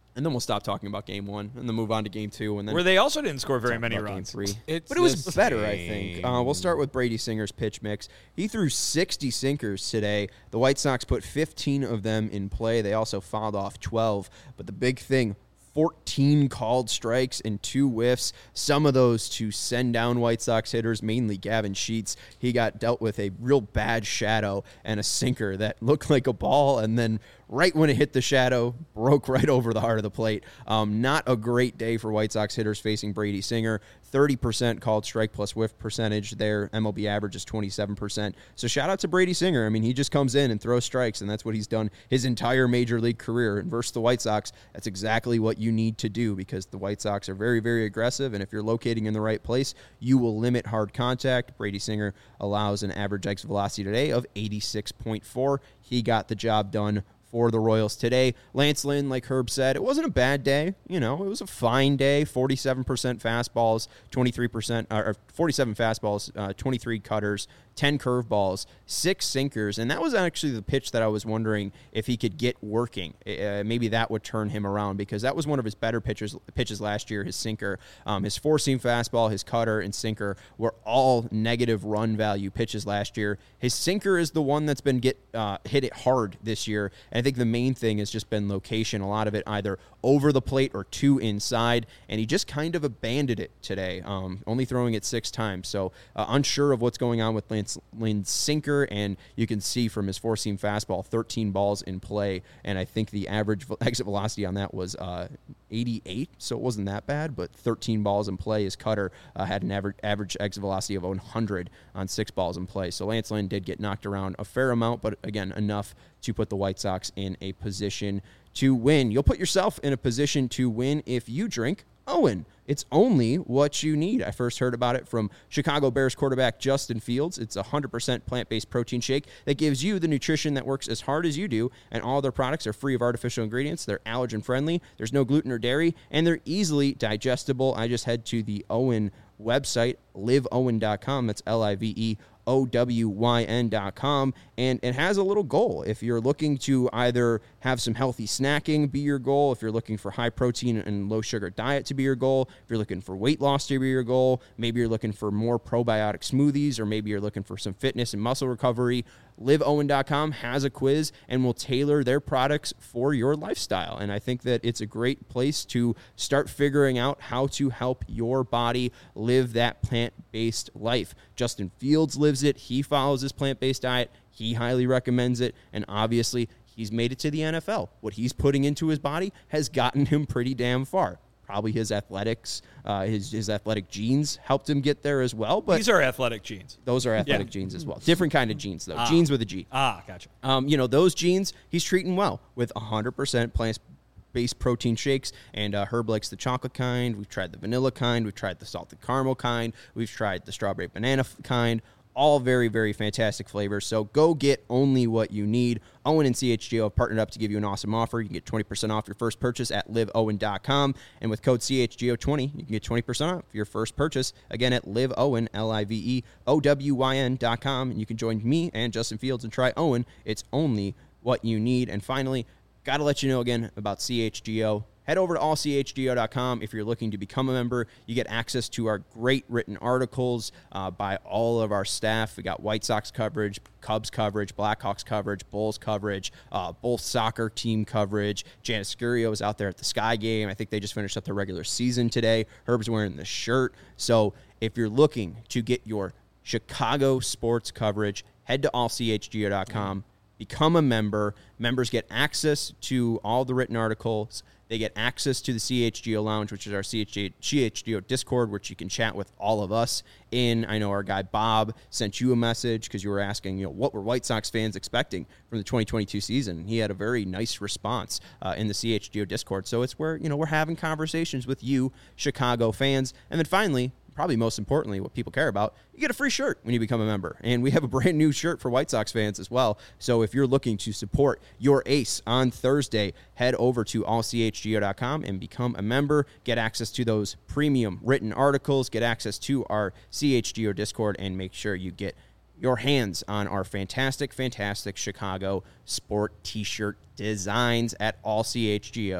And then we'll stop talking about game one and then move on to game two. And then where they also didn't score very many game runs. three. It's But it was the better, I same. think. Uh, we'll start with Brady Singer's pitch mix. He threw sixty sinkers today. The White Sox put fifteen of them in play. They also fouled off twelve. But the big thing, fourteen called strikes and two whiffs. Some of those to send down White Sox hitters, mainly Gavin Sheets. He got dealt with a real bad shadow and a sinker that looked like a ball, and then right when it hit the shadow, broke right over the heart of the plate. Um, not a great day for White Sox hitters facing Brady Singer. thirty percent called strike plus whiff percentage there. M L B average is twenty-seven percent. So shout out to Brady Singer. I mean, he just comes in and throws strikes, and that's what he's done his entire major league career. And versus the White Sox, that's exactly what you need to do, because the White Sox are very, very aggressive, and if you're locating in the right place, you will limit hard contact. Brady Singer allows an average exit velocity today of eighty-six point four. He got the job done for the Royals today. Lance Lynn, like Herb said, it wasn't a bad day. You know, it was a fine day. forty-seven percent fastballs, twenty-three percent, or forty-seven fastballs, uh, twenty-three cutters, ten curveballs, six sinkers, and that was actually the pitch that I was wondering if he could get working. Uh, maybe that would turn him around, because that was one of his better pitches pitches last year, his sinker. Um, his four-seam fastball, his cutter, and sinker were all negative run value pitches last year. His sinker is the one that's been get uh, hit it hard this year, and I think the main thing has just been location. A lot of it either over the plate or two inside, and he just kind of abandoned it today, um, only throwing it six times. So uh, unsure of what's going on with Lance Lynn's sinker, and you can see from his four-seam fastball, thirteen balls in play, and I think the average exit velocity on that was uh, eighty-eight, so it wasn't that bad, but thirteen balls in play. His cutter uh, had an average, average exit velocity of one hundred on six balls in play. So Lance Lynn did get knocked around a fair amount, but again, enough to put the White Sox in a position to win. You'll put yourself in a position to win if you drink Owen. It's only what you need. I first heard about it from Chicago Bears quarterback Justin Fields. It's a one hundred percent plant-based protein shake that gives you the nutrition that works as hard as you do, and all their products are free of artificial ingredients. They're allergen-friendly. There's no gluten or dairy, and they're easily digestible. I just head to the Owen website, live owen dot com. That's L I V E O W Y N dot com, and it has a little goal. If you're looking to either have some healthy snacking be your goal, if you're looking for high protein and low sugar diet to be your goal, if you're looking for weight loss to be your goal, maybe you're looking for more probiotic smoothies, or maybe you're looking for some fitness and muscle recovery, live owen dot com has a quiz and will tailor their products for your lifestyle. And I think that it's a great place to start figuring out how to help your body live that plant-based life. Justin Fields lives it. He follows his plant-based diet. He highly recommends it. And obviously, he's made it to the N F L. What he's putting into his body has gotten him pretty damn far. Probably his athletics, uh, his his athletic genes helped him get there as well. But these are athletic genes. Those are athletic yeah. genes as well. Different kind of genes, though. Ah. Genes with a G. Ah, gotcha. Um, you know, those genes he's treating well with one hundred percent plant-based protein shakes. And uh, Herb likes the chocolate kind. We've tried the vanilla kind. We've tried the salted caramel kind. We've tried the strawberry banana kind. All very, very fantastic flavors. So go get only what you need. Owen and C H G O have partnered up to give you an awesome offer. You can get twenty percent off your first purchase at live owen dot com. And with code C H G O twenty, you can get twenty percent off your first purchase. Again, at live owen, L I V E O W Y N dot com. And you can join me and Justin Fields and try Owen. It's only what you need. And finally, got to let you know again about C H G O. Head over to all c h g o dot com if you're looking to become a member. You get access to our great written articles uh, by all of our staff. We got White Sox coverage, Cubs coverage, Blackhawks coverage, Bulls coverage, uh, both soccer team coverage. Janice Scurio is out there at the Sky Game. I think they just finished up their regular season today. Herb's wearing the shirt. So if you're looking to get your Chicago sports coverage, head to all c h g o dot com. Become a member. Members get access to all the written articles. They get access to the C H G O Lounge, which is our C H G O Discord, which you can chat with all of us in. I know our guy Bob sent you a message because you were asking, you know, what were White Sox fans expecting from the twenty twenty-two season? He had a very nice response uh, in the C H G O Discord. So it's where, you know, we're having conversations with you, Chicago fans. And then finally, probably most importantly, what people care about, you get a free shirt when you become a member. And we have a brand new shirt for White Sox fans as well. So if you're looking to support your ace on Thursday, head over to all c h g o dot com and become a member. Get access to those premium written articles, get access to our C H G O Discord, and make sure you get your hands on our fantastic, fantastic Chicago sport t-shirt designs at all c h g o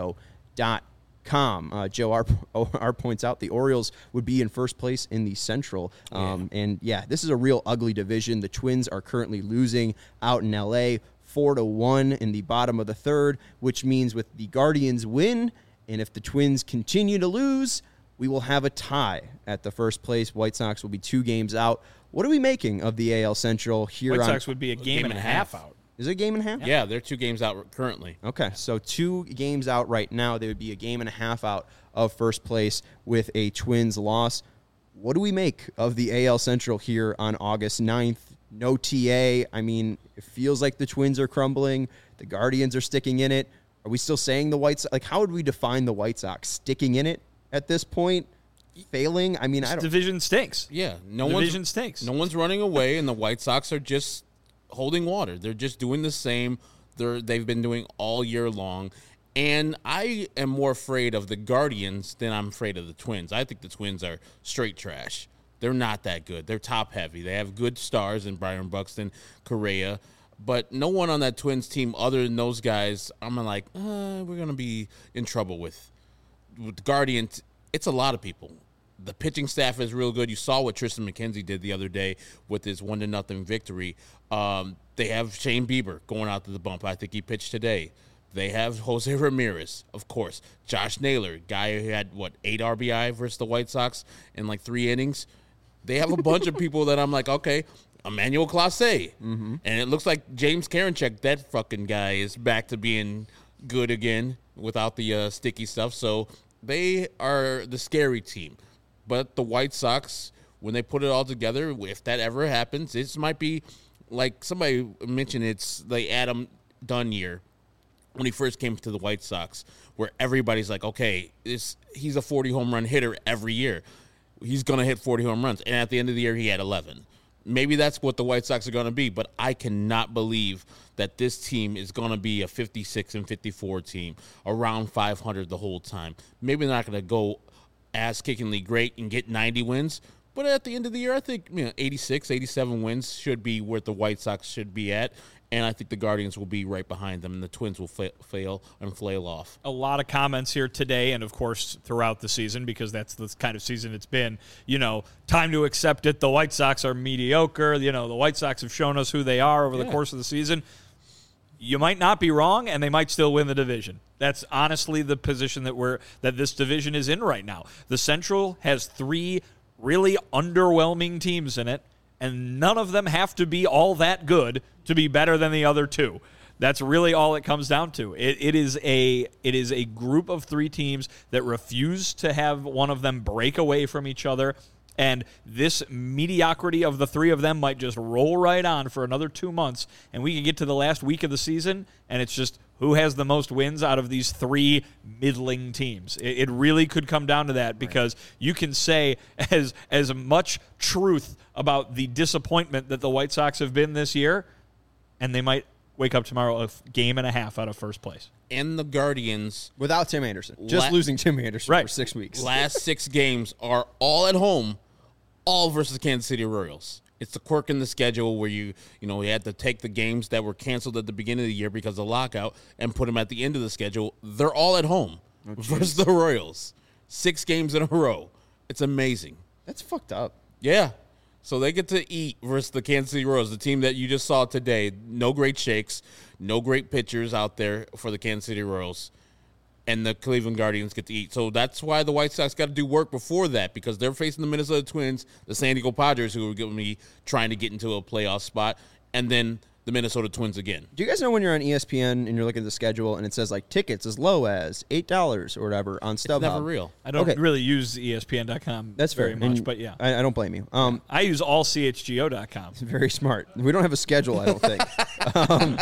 dot com. Uh, Joe R. R points out the Orioles would be in first place in the Central. Um, yeah. And, yeah, this is a real ugly division. The Twins are currently losing out in L A four to one in the bottom of the third, which means with the Guardians win, and if the Twins continue to lose, we will have a tie at the first place. White Sox will be two games out. What are we making of the A L Central here? White on, Sox would be a game, game and a half, half out. Is it a game and a half? Yeah, they're two games out currently. Okay, so two games out right now. They would be a game and a half out of first place with a Twins loss. What do we make of the A L Central here on August ninth? No T A. I mean, it feels like the Twins are crumbling. The Guardians are sticking in it. Are we still saying the White Sox? Like, how would we define the White Sox? Sticking in it at this point? Failing? I mean, this I don't. Division stinks. Yeah, no division one's, stinks. No one's running away, and the White Sox are just holding water. They're just doing the same they're they've been doing all year long. And I am more afraid of the Guardians than I'm afraid of the Twins. I think the Twins are straight trash. They're not that good. They're top heavy. They have good stars in Byron Buxton, Correa, but no one on that Twins team other than those guys, I'm like, uh, we're gonna be in trouble with. With the Guardians, it's a lot of people. The pitching staff is real good. You saw what Tristan McKenzie did the other day with his one to nothing victory. Um, they have Shane Bieber going out to the bump. I think he pitched today. They have Jose Ramirez, of course. Josh Naylor, guy who had, what, eight R B I versus the White Sox in like three innings. They have a bunch of people that I'm like, okay, Emmanuel Clase. Mm-hmm. And it looks like James Karinchak, that fucking guy, is back to being good again without the uh, sticky stuff. So they are the scary team. But the White Sox, when they put it all together, if that ever happens, this might be like somebody mentioned, it's the Adam Dunn year when he first came to the White Sox, where everybody's like, okay, this, he's a forty home run hitter every year. He's going to hit forty home runs. And at the end of the year, he had eleven. Maybe that's what the White Sox are going to be, but I cannot believe that this team is going to be a fifty-six and fifty-four team, around five hundred the whole time. Maybe they're not going to go ass-kickingly great and get ninety wins, but at the end of the year, I think you know, eighty-six, eighty-seven wins should be where the White Sox should be at, and I think the Guardians will be right behind them, and the Twins will fa- fail and flail off. A lot of comments here today, and of course throughout the season, because that's the kind of season it's been. You know, time to accept it. The White Sox are mediocre. You know, the White Sox have shown us who they are over yeah. the course of the season. You might not be wrong, and they might still win the division. That's honestly the position that we're that this division is in right now. The Central has three really underwhelming teams in it, and none of them have to be all that good to be better than the other two. That's really all it comes down to. It, it is a it is a group of three teams that refuse to have one of them break away from each other. And this mediocrity of the three of them might just roll right on for another two months, and we can get to the last week of the season, and it's just who has the most wins out of these three middling teams. It, it really could come down to that, because right. you can say as as much truth about the disappointment that the White Sox have been this year, and they might wake up tomorrow a game and a half out of first place. And the Guardians, without Tim Anderson, just la- losing Tim Anderson right. for six weeks. Last six games are all at home, all versus the Kansas City Royals. It's the quirk in the schedule where you, you know, you had to take the games that were canceled at the beginning of the year because of lockout and put them at the end of the schedule. They're all at home oh, versus the Royals. Six games in a row. It's amazing. That's fucked up. Yeah. So they get to eat versus the Kansas City Royals, the team that you just saw today. No great shakes, no great pitchers out there for the Kansas City Royals. And the Cleveland Guardians get to eat. So that's why the White Sox got to do work before that, because they're facing the Minnesota Twins, the San Diego Padres, who are going to be trying to get into a playoff spot, and then the Minnesota Twins again. Do you guys know when you're on E S P N and you're looking at the schedule and it says like tickets as low as eight dollars or whatever on StubHub? It's never real. I don't okay. really use E S P N dot com That's very fair. much, and but yeah. I, I don't blame you. Um, I use all C H G O dot com. Very smart. We don't have a schedule, I don't think. um,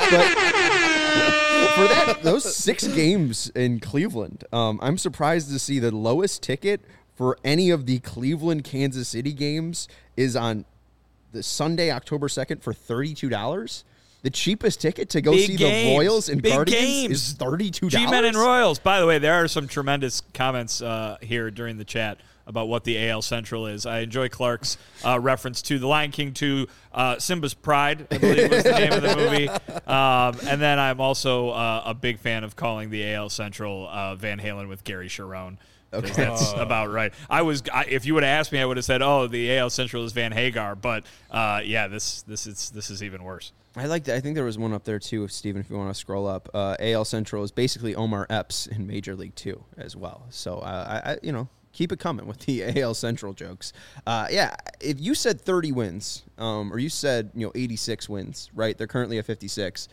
but for that, those six games in Cleveland, um, I'm surprised to see the lowest ticket for any of the Cleveland Kansas City games is on the Sunday, October second for thirty-two dollars. The cheapest ticket to go Big see games. the Royals and Big Guardians games. is thirty-two dollars. G-Men and Royals. By the way, there are some tremendous comments uh, here during the chat. about what the A L Central is. I enjoy Clark's uh, reference to The Lion King two, uh, Simba's Pride, I believe was the name of the movie. Um, and then I'm also uh, a big fan of calling the A L Central uh, Van Halen with Gary Cherone. Okay. That's about right. I was, I, if you would have asked me, I would have said, "Oh, the A L Central is Van Hagar." But uh, yeah, this this is this is even worse. I like. I think there was one up there too, Steven, if you want to scroll up. Uh, A L Central is basically Omar Epps in Major League Two as well. So uh, I, I, you know, keep it coming with the A L Central jokes. Uh, yeah, if you said thirty wins, um, or you said you know eighty-six wins, right? They're currently at fifty-six.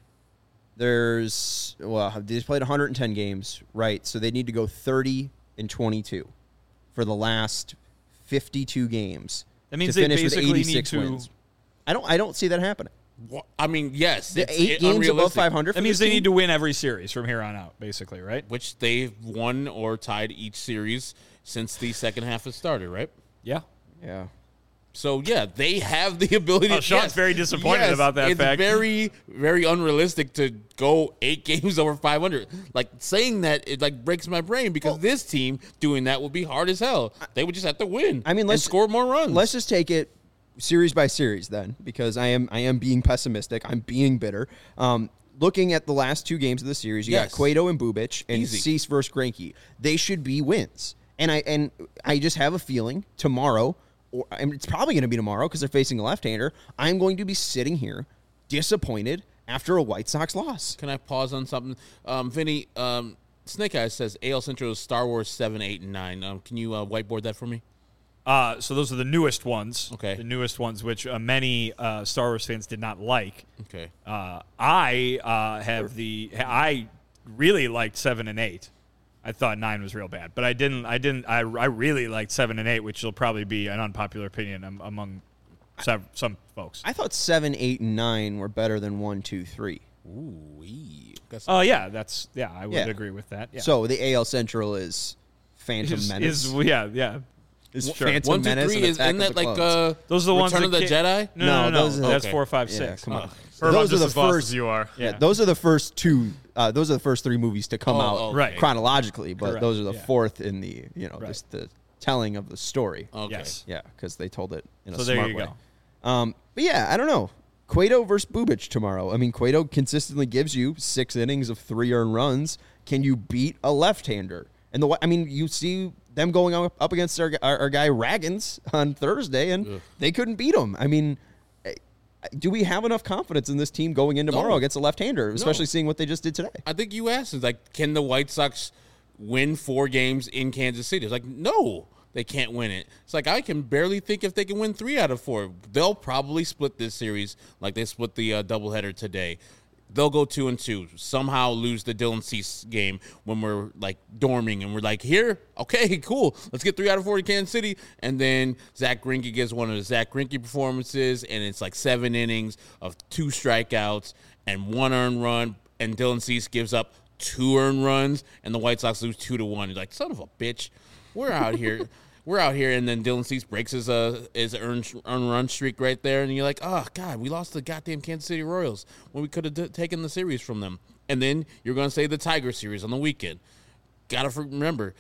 There's well, they played one hundred ten games, right? So they need to go thirty and twenty-two for the last fifty-two games. That means to they finish with basically eighty-six need to. wins. I don't. I don't see that happening. Well, I mean, yes, The it's eight games above unrealistic, five hundred. That means they need to win every series from here on out, basically, right? which they've won or tied each series since the second half has started, right? Yeah. Yeah. So yeah, they have the ability. Oh, Sean's yes, very disappointed yes, about that it's fact. very, very unrealistic to go eight games over five hundred. Like saying that, it like breaks my brain because Well, this team doing that would be hard as hell. They would just have to win. I mean, and let's score more runs. Let's just take it series by series then, because I am I am being pessimistic. I'm being bitter. Um, looking at the last two games of the series, you Yes. got Cueto and Bubic and Easy. Cease versus Greinke. They should be wins, and I and I just have a feeling tomorrow. Or, I mean, it's probably going to be tomorrow because they're facing a left-hander. I'm going to be sitting here disappointed after a White Sox loss. Can I pause on something? Um, Vinny, um, Snake Eyes says A L Central is Star Wars seven, eight, and nine. Um, can you uh, whiteboard that for me? Uh, so those are the newest ones. Okay. The newest ones, which uh, many uh, Star Wars fans did not like. Okay. Uh, I uh, have the. I really liked seven and eight. I thought nine was real bad, but I didn't. I didn't. I, I really liked seven and eight, which will probably be an unpopular opinion am, among some, some folks. I thought seven, eight, and nine were better than one, two, three. Ooh, wee. That's- Oh yeah, that's yeah. I would Yeah. agree with that. Yeah. So the A L Central is Phantom is, Menace. is yeah yeah. Is Sure. Phantom One, two, Menace three and is Attack isn't of that the like Clones. uh, Those are the ones Return that of the ca- Jedi? No, No, no, no. those are- That's Okay. four, five, Yeah, six. come on. Uh, Herb, Those I'm are the just as lost first- as you are. Yeah, Yeah. those are the first two. Uh, those are the first three movies to come Oh, out okay. Right. chronologically, but Correct, those are the yeah. fourth in the you know Right. just the telling of the story. Okay. Yes. Yeah, because they told it in a So there smart you way. go. Um, but yeah, I don't know. Cueto versus Bubic tomorrow. I mean, Cueto consistently gives you six innings of three earned runs. Can you beat a left-hander? And the I mean, you see them going up, up against our, our, our guy Raggins on Thursday, and Ugh. they couldn't beat him. I mean, eh, do we have enough confidence in this team going in tomorrow No. against a left-hander, especially seeing what they just did today? I think you asked, is like, can the White Sox win four games in Kansas City? It's like, no, they can't win it. It's like, I can barely think if they can win three out of four. They'll probably split this series like they split the uh, doubleheader today. They'll go two and two. Somehow lose the Dylan Cease game when we're like dorming and we're like, here, okay, cool. Let's get three out of four to Kansas City. And then Zach Greinke gets one of the Zach Greinke performances, and it's like seven innings of two strikeouts and one earned run. And Dylan Cease gives up two earned runs, and the White Sox lose two to one. You're like, son of a bitch, we're out here. We're out here, and then Dylan Cease breaks his uh his earned, earned run streak right there, and you're like, oh, God, we lost the goddamn Kansas City Royals when we could have d- taken the series from them. And then you're going to say the Tiger series on the weekend. Got to remember,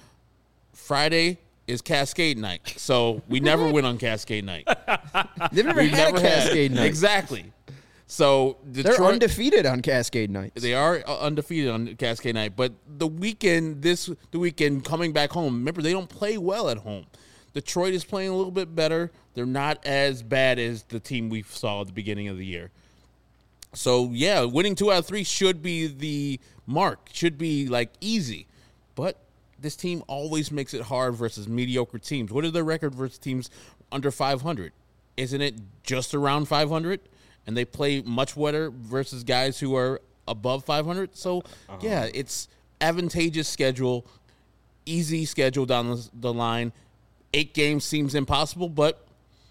Friday is Cascade night, so we never win on Cascade night. They've never We had never a Cascade had, night. Exactly. So They're Detroit, undefeated on Cascade nights. They are uh, undefeated on Cascade night, but the weekend, this the weekend coming back home. Remember, they don't play well at home. Detroit is playing a little bit better. They're not as bad as the team we saw at the beginning of the year. So yeah, winning two out of three should be the mark. Should be like easy, but this team always makes it hard versus mediocre teams. What is their record versus teams under five hundred? Isn't it just around five hundred? And they play much better versus guys who are above five hundred. So, uh-huh. yeah, it's advantageous schedule, easy schedule down the, the line. Eight games seems impossible, but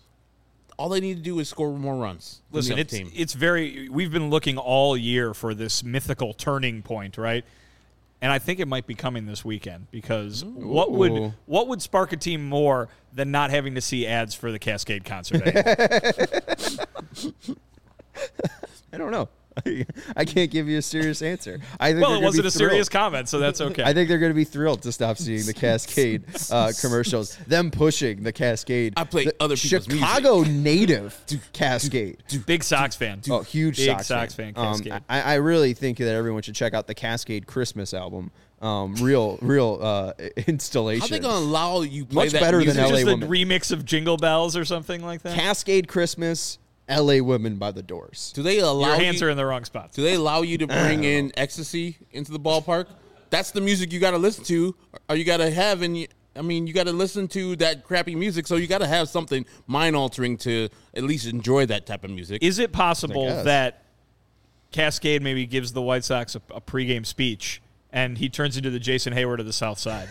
all they need to do is score more runs. Listen, it's team. it's very. We've been looking all year for this mythical turning point, right? And I think it might be coming this weekend because Ooh. what would what would spark a team more than not having to see ads for the Cascade concert? I don't know. I can't give you a serious answer. I think Well, they're it gonna wasn't be a serious thrilled. comment, so that's okay. I think they're going to be thrilled to stop seeing the Cascade uh, commercials. Them pushing the Cascade. I play the other people's Chicago native Cascade. Big Sox fan. Oh, huge Big Sox, Sox fan. fan, Cascade. Um, I, I really think that everyone should check out the Cascade Christmas album. Um, real, real uh, installation. How they gonna allow you play Much that better than music? L A Just a Woman. remix of Jingle Bells or something like that. Cascade Christmas, L A Women by the Doors. Do they allow Your hands you, are in the wrong spots. Do they allow you to bring in ecstasy into the ballpark? That's the music you got to listen to, or you got to have. And I mean, you got to listen to that crappy music, so you got to have something mind altering to at least enjoy that type of music. Is it possible guess. that Cascade maybe gives the White Sox a, a pregame speech and he turns into the Jason Hayward of the South Side?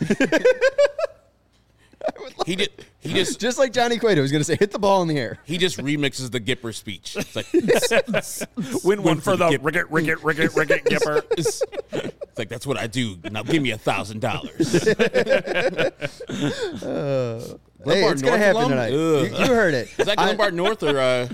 he did. He just Just like Johnny Cueto was going to say, hit the ball in the air. he just remixes the Gipper speech. It's like Win one for for the the Gip- Ricket, Ricket, Ricket, Ricket Gipper. it's, it's like that's what I do. Now give me a thousand dollars. Hey, it's going to happen tonight. You, you heard it. Is that I- Glenbard North or uh,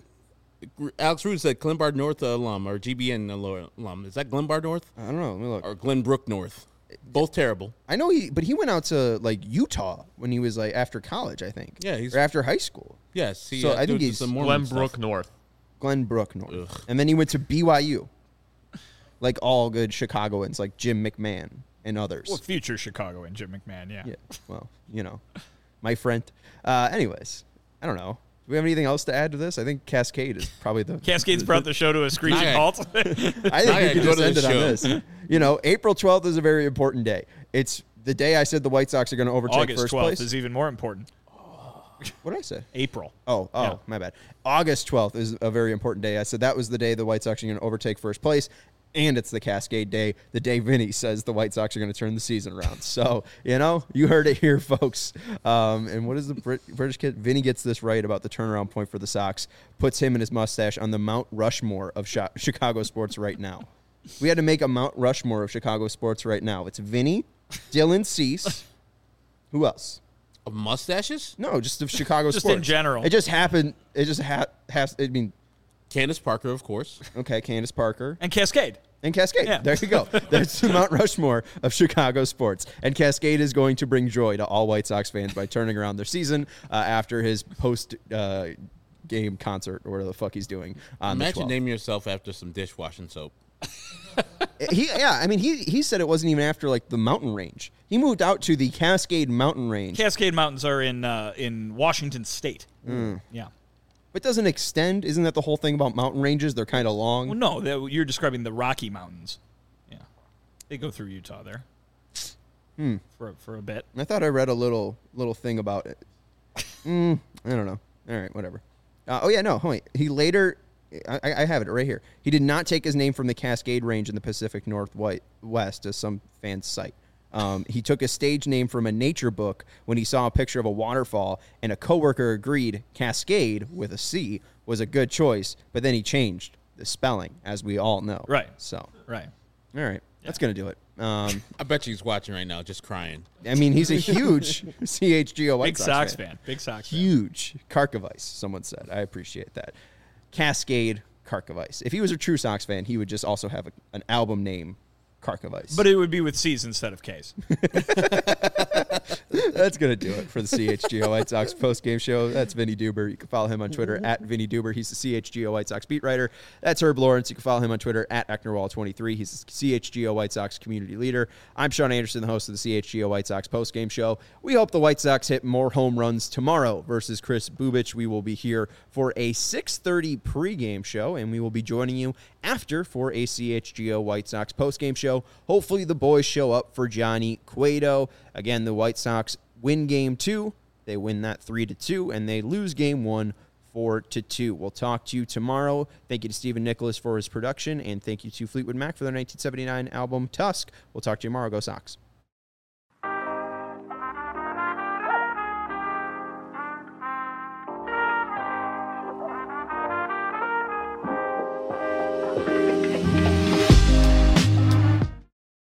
Alex Rude said Glenbard North alum or G B N alum? Is that Glenbard North I don't know. Let me look. or Glenbrook North? Both terrible. I know he, but he went out to like Utah when he was like after college, I think. Yeah, he's- or after high school. Yes, he, So uh, I think did he's some Mormon Glenbrook stuff. North. Glenbrook North, Ugh. and then he went to B Y U, like all good Chicagoans, like Jim McMahon and others. Well, future Chicago and Jim McMahon, yeah. Yeah, well, you know, my friend. Uh, anyways, I don't know. Do we have anything else to add to this? I think Cascade is probably the Cascade's brought the show to a screeching Nah, halt. I think Now we I could go just to end the it on show. this. You know, April twelfth is a very important day. It's the day I said the White Sox are going to overtake August first twelfth place. is even more important. What did I say? April. Oh, oh, Yeah. my bad. August twelfth is a very important day. I said that was the day the White Sox are going to overtake first place, and it's the Cascade Day, the day Vinny says the White Sox are going to turn the season around. So, you know, you heard it here, folks. Um, and what is the Brit- British kid? Vinny gets this right about the turnaround point for the Sox, puts him and his mustache on the Mount Rushmore of Chi- Chicago sports right now. We had to make a Mount Rushmore of Chicago sports right now. It's Vinny, Dylan Cease. Who else? Of mustaches? No, just of Chicago Just sports. in general. It just happened. It just ha- has. I mean, Candace Parker, of course. okay, Candace Parker And Cascade. and Cascade. Yeah. There you go. That's the Mount Rushmore of Chicago sports. And Cascade is going to bring joy to all White Sox fans by turning around their season uh, after his post uh, game concert or whatever the fuck he's doing on the Imagine twelfth. naming yourself after some dishwashing soap. He, yeah, I mean, he he said it wasn't even after like the mountain range. He moved out to the Cascade Mountain Range, Cascade Mountains are in uh, in Washington State. Mm. Yeah. but doesn't extend. Isn't that the whole thing about mountain ranges? They're kind of long. Well, no, that, you're describing the Rocky Mountains. Yeah. They go through Utah there. Hmm. For, for a bit. I thought I read a little little thing about it. Mm, I don't know. All right, whatever. Uh, oh yeah, no. Wait. He later, I, I have it right here. He did not take his name from the Cascade Range in the Pacific Northwest, as some fans cite. Um, he took a stage name from a nature book when he saw a picture of a waterfall, and a coworker agreed Cascade with a C was a good choice, but then he changed the spelling, as we all know. Right. So, Right. all right, that's gonna do it. Um, I bet you he's watching right now, just crying. I mean, he's a huge C H G O White Big Sox, Sox fan. fan. Big Sox fan. Huge. Karkovice, someone said. I appreciate that. Cascade Karkovice. If he was a true Sox fan, he would just also have a, an album name, Karkovice. But it would be with C's instead of K's. That's going to do it for the C H G O White Sox post-game show. That's Vinny Duber. You can follow him on Twitter at Vinny Duber. He's the C H G O White Sox beat writer. That's Herb Lawrence. You can follow him on Twitter at Ecknerwall twenty-three. He's the C H G O White Sox community leader. I'm Sean Anderson, the host of the C H G O White Sox post-game show. We hope the White Sox hit more home runs tomorrow versus Chris Bubich. We will be here for a six thirty pregame show, and we will be joining you after for a C H G O White Sox postgame show. Hopefully the boys show up for Johnny Cueto. Again, the White Sox win game two. They win that three to two, and they lose game one four to two. We'll talk to you tomorrow. Thank you to Stephen Nicholas for his production, and thank you to Fleetwood Mac for their nineteen seventy-nine album Tusk. We'll talk to you tomorrow. Go Sox.